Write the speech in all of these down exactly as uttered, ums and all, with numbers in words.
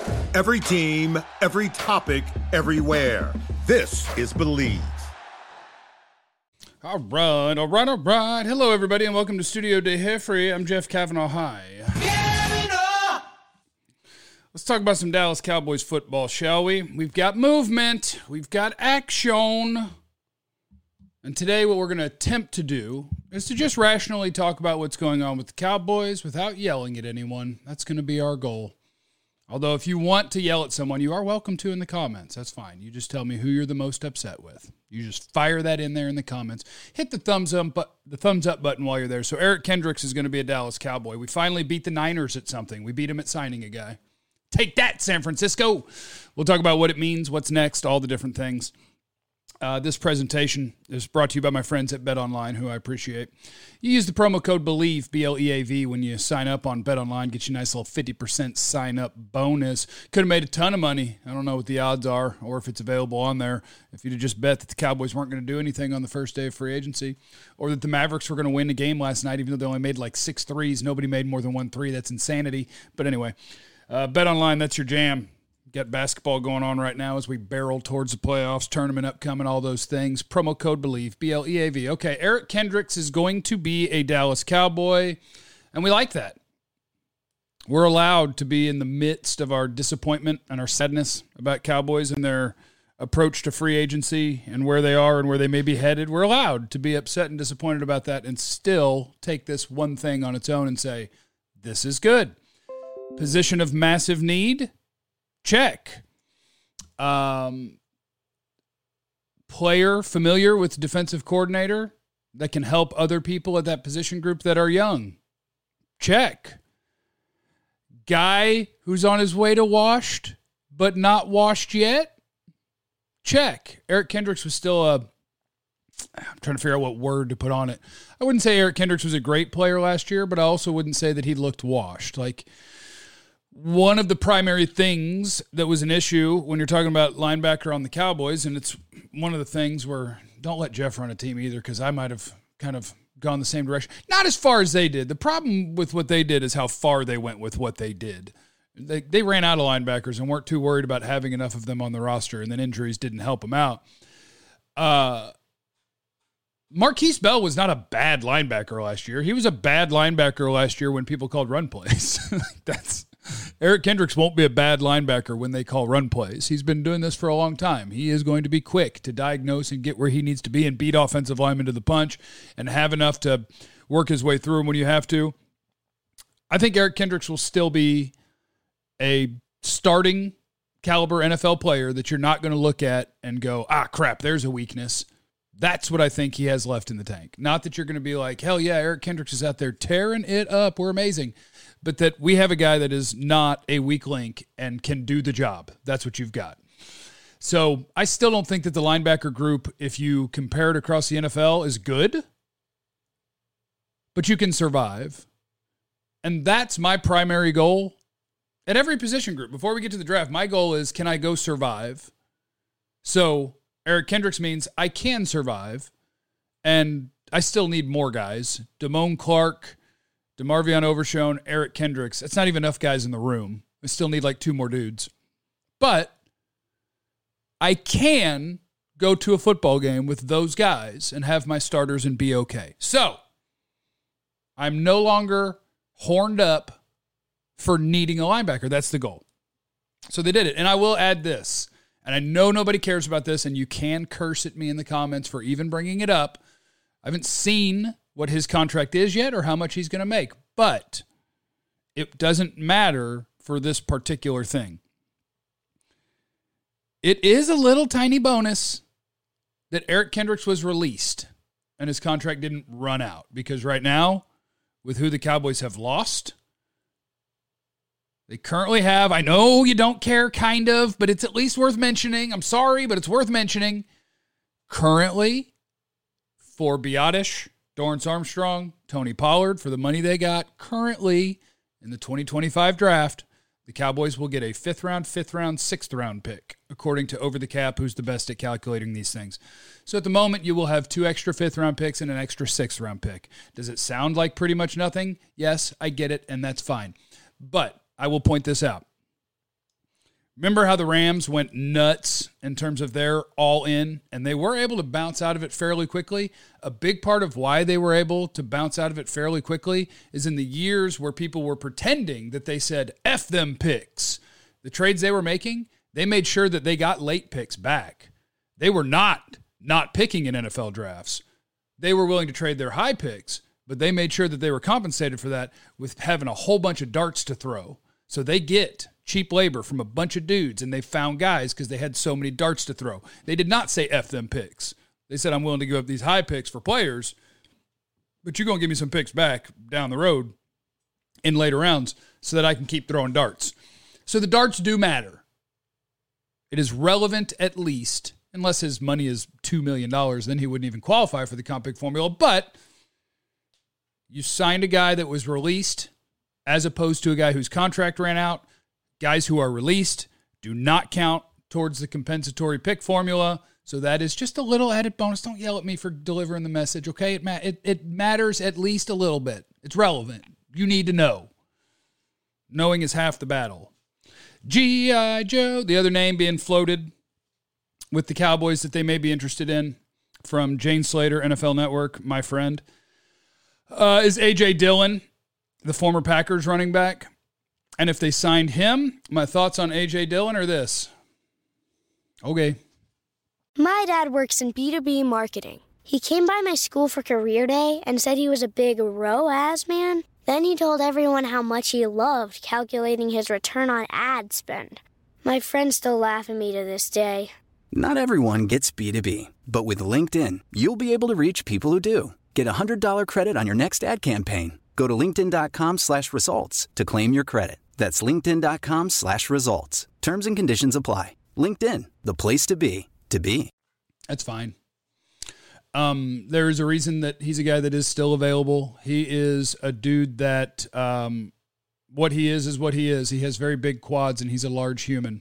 Every team, every topic, everywhere. This is Believe. All right, all right, all right. Hello, everybody, and welcome to Studio De Jeffrey. I'm Jeff Kavanaugh. Hi. Let's talk about some Dallas Cowboys football, shall we? We've got movement. We've got action. And today what we're going to attempt to do is to just rationally talk about what's going on with the Cowboys without yelling at anyone. That's going to be our goal. Although if you want to yell at someone, you are welcome to in the comments. That's fine. You just tell me who you're the most upset with. You just fire that in there in the comments. Hit the thumbs up, but the thumbs up button while you're there. So Eric Kendricks is going to be a Dallas Cowboy. We finally beat the Niners at something. We beat them at signing a guy. Take that, San Francisco. We'll talk about what it means, what's next, all the different things. Uh, this presentation is brought to you by my friends at BetOnline, who I appreciate. You use the promo code BELIEVE, B L E A V, when you sign up on BetOnline. Get you a nice little fifty percent sign-up bonus. Could have made a ton of money. I don't know what the odds are or if it's available on there. If you'd have just bet that the Cowboys weren't going to do anything on the first day of free agency, or that the Mavericks were going to win the game last night, even though they only made like six threes. Nobody made more than one three. That's insanity. But anyway, uh, BetOnline, that's your jam. Got basketball going on right now as we barrel towards the playoffs, tournament upcoming, all those things. Promo code BELIEVE, B L E A V. Okay, Eric Kendricks is going to be a Dallas Cowboy, and we like that. We're allowed to be in the midst of our disappointment and our sadness about Cowboys and their approach to free agency and where they are and where they may be headed. We're allowed to be upset and disappointed about that and still take this one thing on its own and say, this is good. Position of massive need? Check. Um, player familiar with defensive coordinator that can help other people at that position group that are young? Check. Guy who's on his way to washed, but not washed yet? Check. Eric Kendricks was still a, I'm trying to figure out what word to put on it. I wouldn't say Eric Kendricks was a great player last year, but I also wouldn't say that he looked washed. Like, one of the primary things that was an issue when you're talking about linebacker on the Cowboys, and it's one of the things where don't let Jeff run a team either, because I might have kind of gone the same direction. Not as far as they did. The problem with what they did is how far they went with what they did. They they ran out of linebackers and weren't too worried about having enough of them on the roster, and then injuries didn't help them out. Uh, Marquise Bell was not a bad linebacker last year. He was a bad linebacker last year when people called run plays. That's Eric Kendricks won't be a bad linebacker when they call run plays. He's been doing this for a long time. He is going to be quick to diagnose and get where he needs to be and beat offensive linemen to the punch and have enough to work his way through them when you have to. I think Eric Kendricks will still be a starting caliber N F L player that you're not going to look at and go, ah, crap, there's a weakness. That's what I think he has left in the tank. Not that you're going to be like, hell yeah, Eric Kendricks is out there tearing it up. We're amazing. But that we have a guy that is not a weak link and can do the job. That's what you've got. So I still don't think that the linebacker group, if you compare it across the N F L, is good. But you can survive. And that's my primary goal at every position group. Before we get to the draft, my goal is, can I go survive? So Eric Kendricks means I can survive, and I still need more guys. Damone Clark, DeMarvion Overshown, Eric Kendricks. That's not even enough guys in the room. I still need like two more dudes. But I can go to a football game with those guys and have my starters and be okay. So I'm no longer horned up for needing a linebacker. That's the goal. So they did it. And I will add this. And I know nobody cares about this, and you can curse at me in the comments for even bringing it up. I haven't seen what his contract is yet or how much he's going to make, but it doesn't matter for this particular thing. It is a little tiny bonus that Eric Kendricks was released and his contract didn't run out, because right now, with who the Cowboys have lost, they currently have, I know you don't care, kind of, but it's at least worth mentioning. I'm sorry, but it's worth mentioning. Currently, for Biotish, Dorrance Armstrong, Tony Pollard, for the money they got, currently in the twenty twenty-five draft, the Cowboys will get a fifth round, fifth round, sixth round pick, according to Over the Cap, who's the best at calculating these things. So at the moment, you will have two extra fifth round picks and an extra sixth round pick. Does it sound like pretty much nothing? Yes, I get it, and that's fine. But I will point this out. Remember how the Rams went nuts in terms of their all-in, and they were able to bounce out of it fairly quickly? A big part of why they were able to bounce out of it fairly quickly is in the years where people were pretending that they said, F them picks. The trades they were making, they made sure that they got late picks back. They were not not picking in N F L drafts. They were willing to trade their high picks, but they made sure that they were compensated for that with having a whole bunch of darts to throw. So they get cheap labor from a bunch of dudes, and they found guys because they had so many darts to throw. They did not say F them picks. They said, I'm willing to give up these high picks for players, but you're going to give me some picks back down the road in later rounds so that I can keep throwing darts. So the darts do matter. It is relevant at least, unless his money is two million dollars, then he wouldn't even qualify for the comp pick formula. But you signed a guy that was released as opposed to a guy whose contract ran out. Guys who are released do not count towards the compensatory pick formula. So that is just a little added bonus. Don't yell at me for delivering the message, okay? It, ma- it, it matters at least a little bit. It's relevant. You need to know. Knowing is half the battle. G I. Joe, the other name being floated with the Cowboys that they may be interested in from Jane Slater, N F L Network, my friend, uh, is A J. Dillon, the former Packers running back. And if they signed him, my thoughts on A J. Dillon are this. Okay. My dad works in B two B marketing. He came by my school for career day and said he was a big R O A S man. Then he told everyone how much he loved calculating his return on ad spend. My friends still laugh at me to this day. Not everyone gets B two B, but with LinkedIn, you'll be able to reach people who do. Get a one hundred dollars credit on your next ad campaign. Go to linkedin.com slash results to claim your credit. That's linkedin.com slash results. Terms and conditions apply. LinkedIn, the place to be, to be. That's fine. Um, there is a reason that he's a guy that is still available. He is a dude that um, what he is is what he is. He has very big quads, and he's a large human.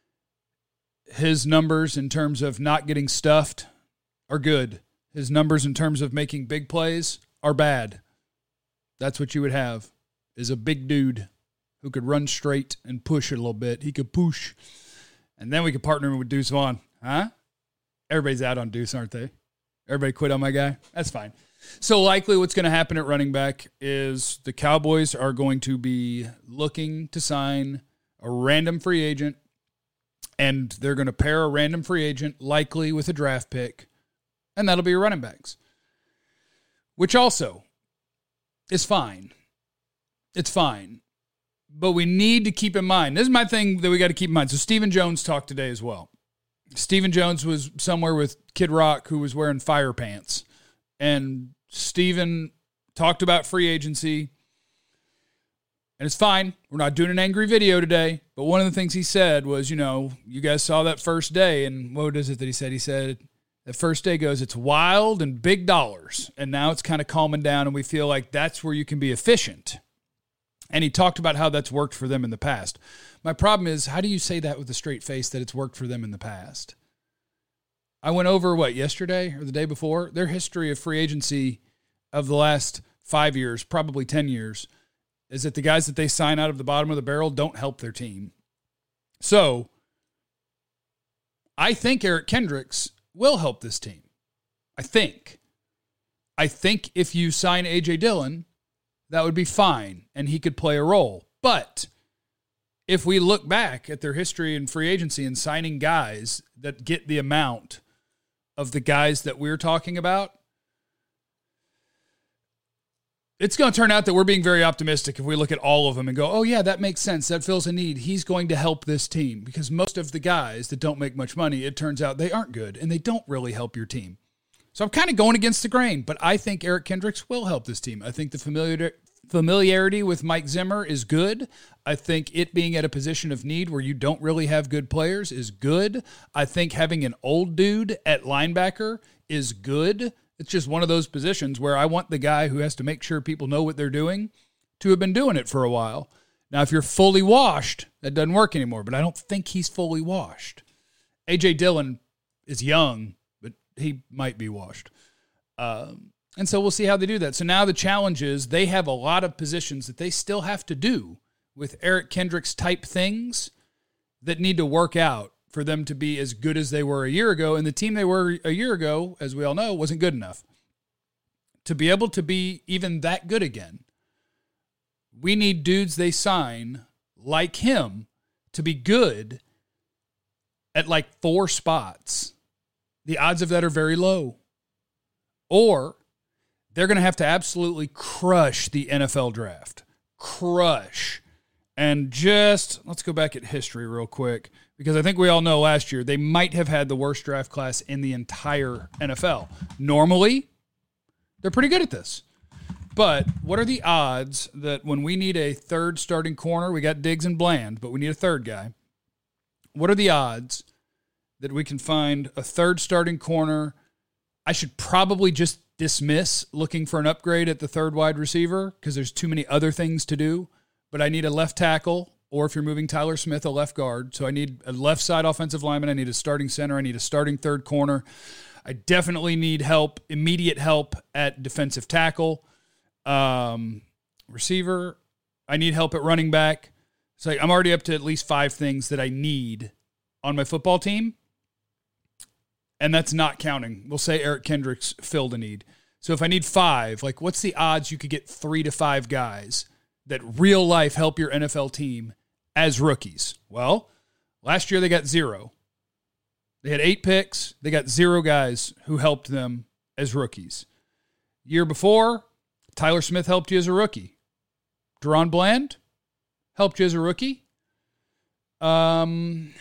His numbers in terms of not getting stuffed are good. His numbers in terms of making big plays are bad. That's what you would have, is a big dude who could run straight and push it a little bit. He could push. And then we could partner him with Deuce Vaughn. Huh? Everybody's out on Deuce, aren't they? Everybody quit on my guy? That's fine. So likely what's going to happen at running back is the Cowboys are going to be looking to sign a random free agent, and they're going to pair a random free agent likely with a draft pick, and that'll be your running backs, which also is fine. It's fine. But we need to keep in mind, this is my thing that we got to keep in mind. So Stephen Jones talked today as well. Stephen Jones was somewhere with Kid Rock who was wearing fire pants. And Stephen talked about free agency. And it's fine. We're not doing an angry video today. But one of the things he said was, you know, you guys saw that first day. And what is it that he said? He said, that first day goes, it's wild and big dollars. And now it's kind of calming down, and we feel like that's where you can be efficient. And he talked about how that's worked for them in the past. My problem is, how do you say that with a straight face that it's worked for them in the past? I went over, what, yesterday or the day before? Their history of free agency of the last five years, probably ten years, is that the guys that they sign out of the bottom of the barrel don't help their team. So I think Eric Kendricks will help this team. I think. I think if you sign A J. Dillon, that would be fine, and he could play a role. But if we look back at their history in free agency and signing guys that get the amount of the guys that we're talking about, it's going to turn out that we're being very optimistic if we look at all of them and go, oh, yeah, that makes sense. That fills a need. He's going to help this team, because most of the guys that don't make much money, it turns out they aren't good, and they don't really help your team. So I'm kind of going against the grain, but I think Eric Kendricks will help this team. I think the familiar, familiarity with Mike Zimmer is good. I think it being at a position of need where you don't really have good players is good. I think having an old dude at linebacker is good. It's just one of those positions where I want the guy who has to make sure people know what they're doing to have been doing it for a while. Now, if you're fully washed, that doesn't work anymore, but I don't think he's fully washed. A J. Dillon is young, but he might be washed. Um, and so we'll see how they do that. So now the challenge is they have a lot of positions that they still have to do with Eric Kendricks type things that need to work out for them to be as good as they were a year ago. And the team they were a year ago, as we all know, wasn't good enough. To be able to be even that good again, we need dudes they sign like him to be good at like four spots. The odds of that are very low. Or they're going to have to absolutely crush the N F L draft. Crush. And just, let's go back at history real quick, because I think we all know last year they might have had the worst draft class in the entire N F L. Normally, they're pretty good at this. But what are the odds that when we need a third starting corner, we got Diggs and Bland, but we need a third guy. What are the odds that we can find a third starting corner? I should probably just dismiss looking for an upgrade at the third wide receiver because there's too many other things to do. But I need a left tackle, or if you're moving Tyler Smith, a left guard. So I need a left side offensive lineman. I need a starting center. I need a starting third corner. I definitely need help, immediate help at defensive tackle. Um, receiver, I need help at running back. So I'm already up to at least five things that I need on my football team. And that's not counting. We'll say Eric Kendricks filled a need. So if I need five, like what's the odds you could get three to five guys that real life help your N F L team as rookies? Well, last year they got zero. They had eight picks. They got zero guys who helped them as rookies. Year before, Tyler Smith helped you as a rookie. Deron Bland helped you as a rookie. Um,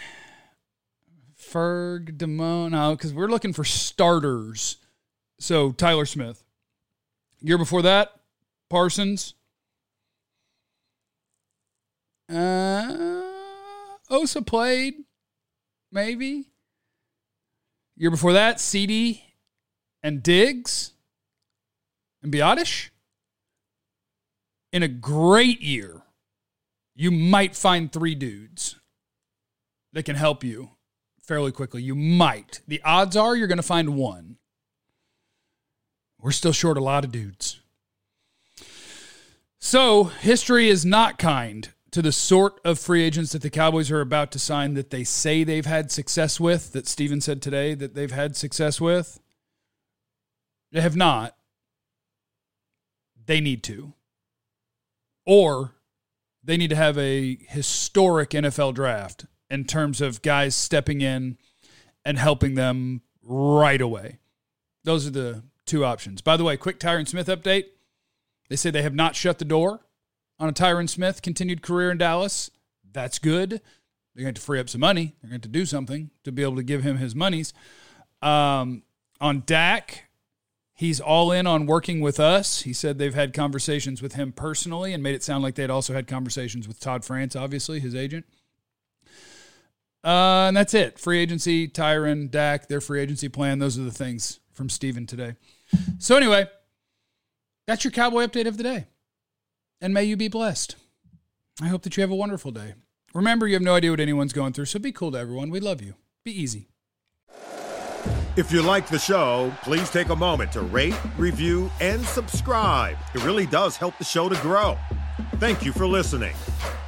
Ferg, Damone, no, because we're looking for starters. So Tyler Smith. Year before that, Parsons. Uh, Osa played, maybe. Year before that, C D and Diggs and Biotish. In a great year, you might find three dudes that can help you fairly quickly. You might. The odds are you're going to find one. We're still short a lot of dudes. So, history is not kind to the sort of free agents that the Cowboys are about to sign that they say they've had success with, that Steven said today that they've had success with. They have not. They need to. Or they need to have a historic N F L draft in terms of guys stepping in and helping them right away. Those are the two options. By the way, quick Tyron Smith update. They say they have not shut the door on a Tyron Smith continued career in Dallas. That's good. They're going to free up some money. They're going to do something to be able to give him his monies. Um, on Dak, he's all in on working with us. He said they've had conversations with him personally and made it sound like they'd also had conversations with Todd France, obviously, his agent. Uh, and that's it. Free agency, Tyron, Dak, their free agency plan. Those are the things from Steven today. So anyway, that's your Cowboy update of the day. And may you be blessed. I hope that you have a wonderful day. Remember, you have no idea what anyone's going through, so be cool to everyone. We love you. Be easy. If you like the show, please take a moment to rate, review, and subscribe. It really does help the show to grow. Thank you for listening.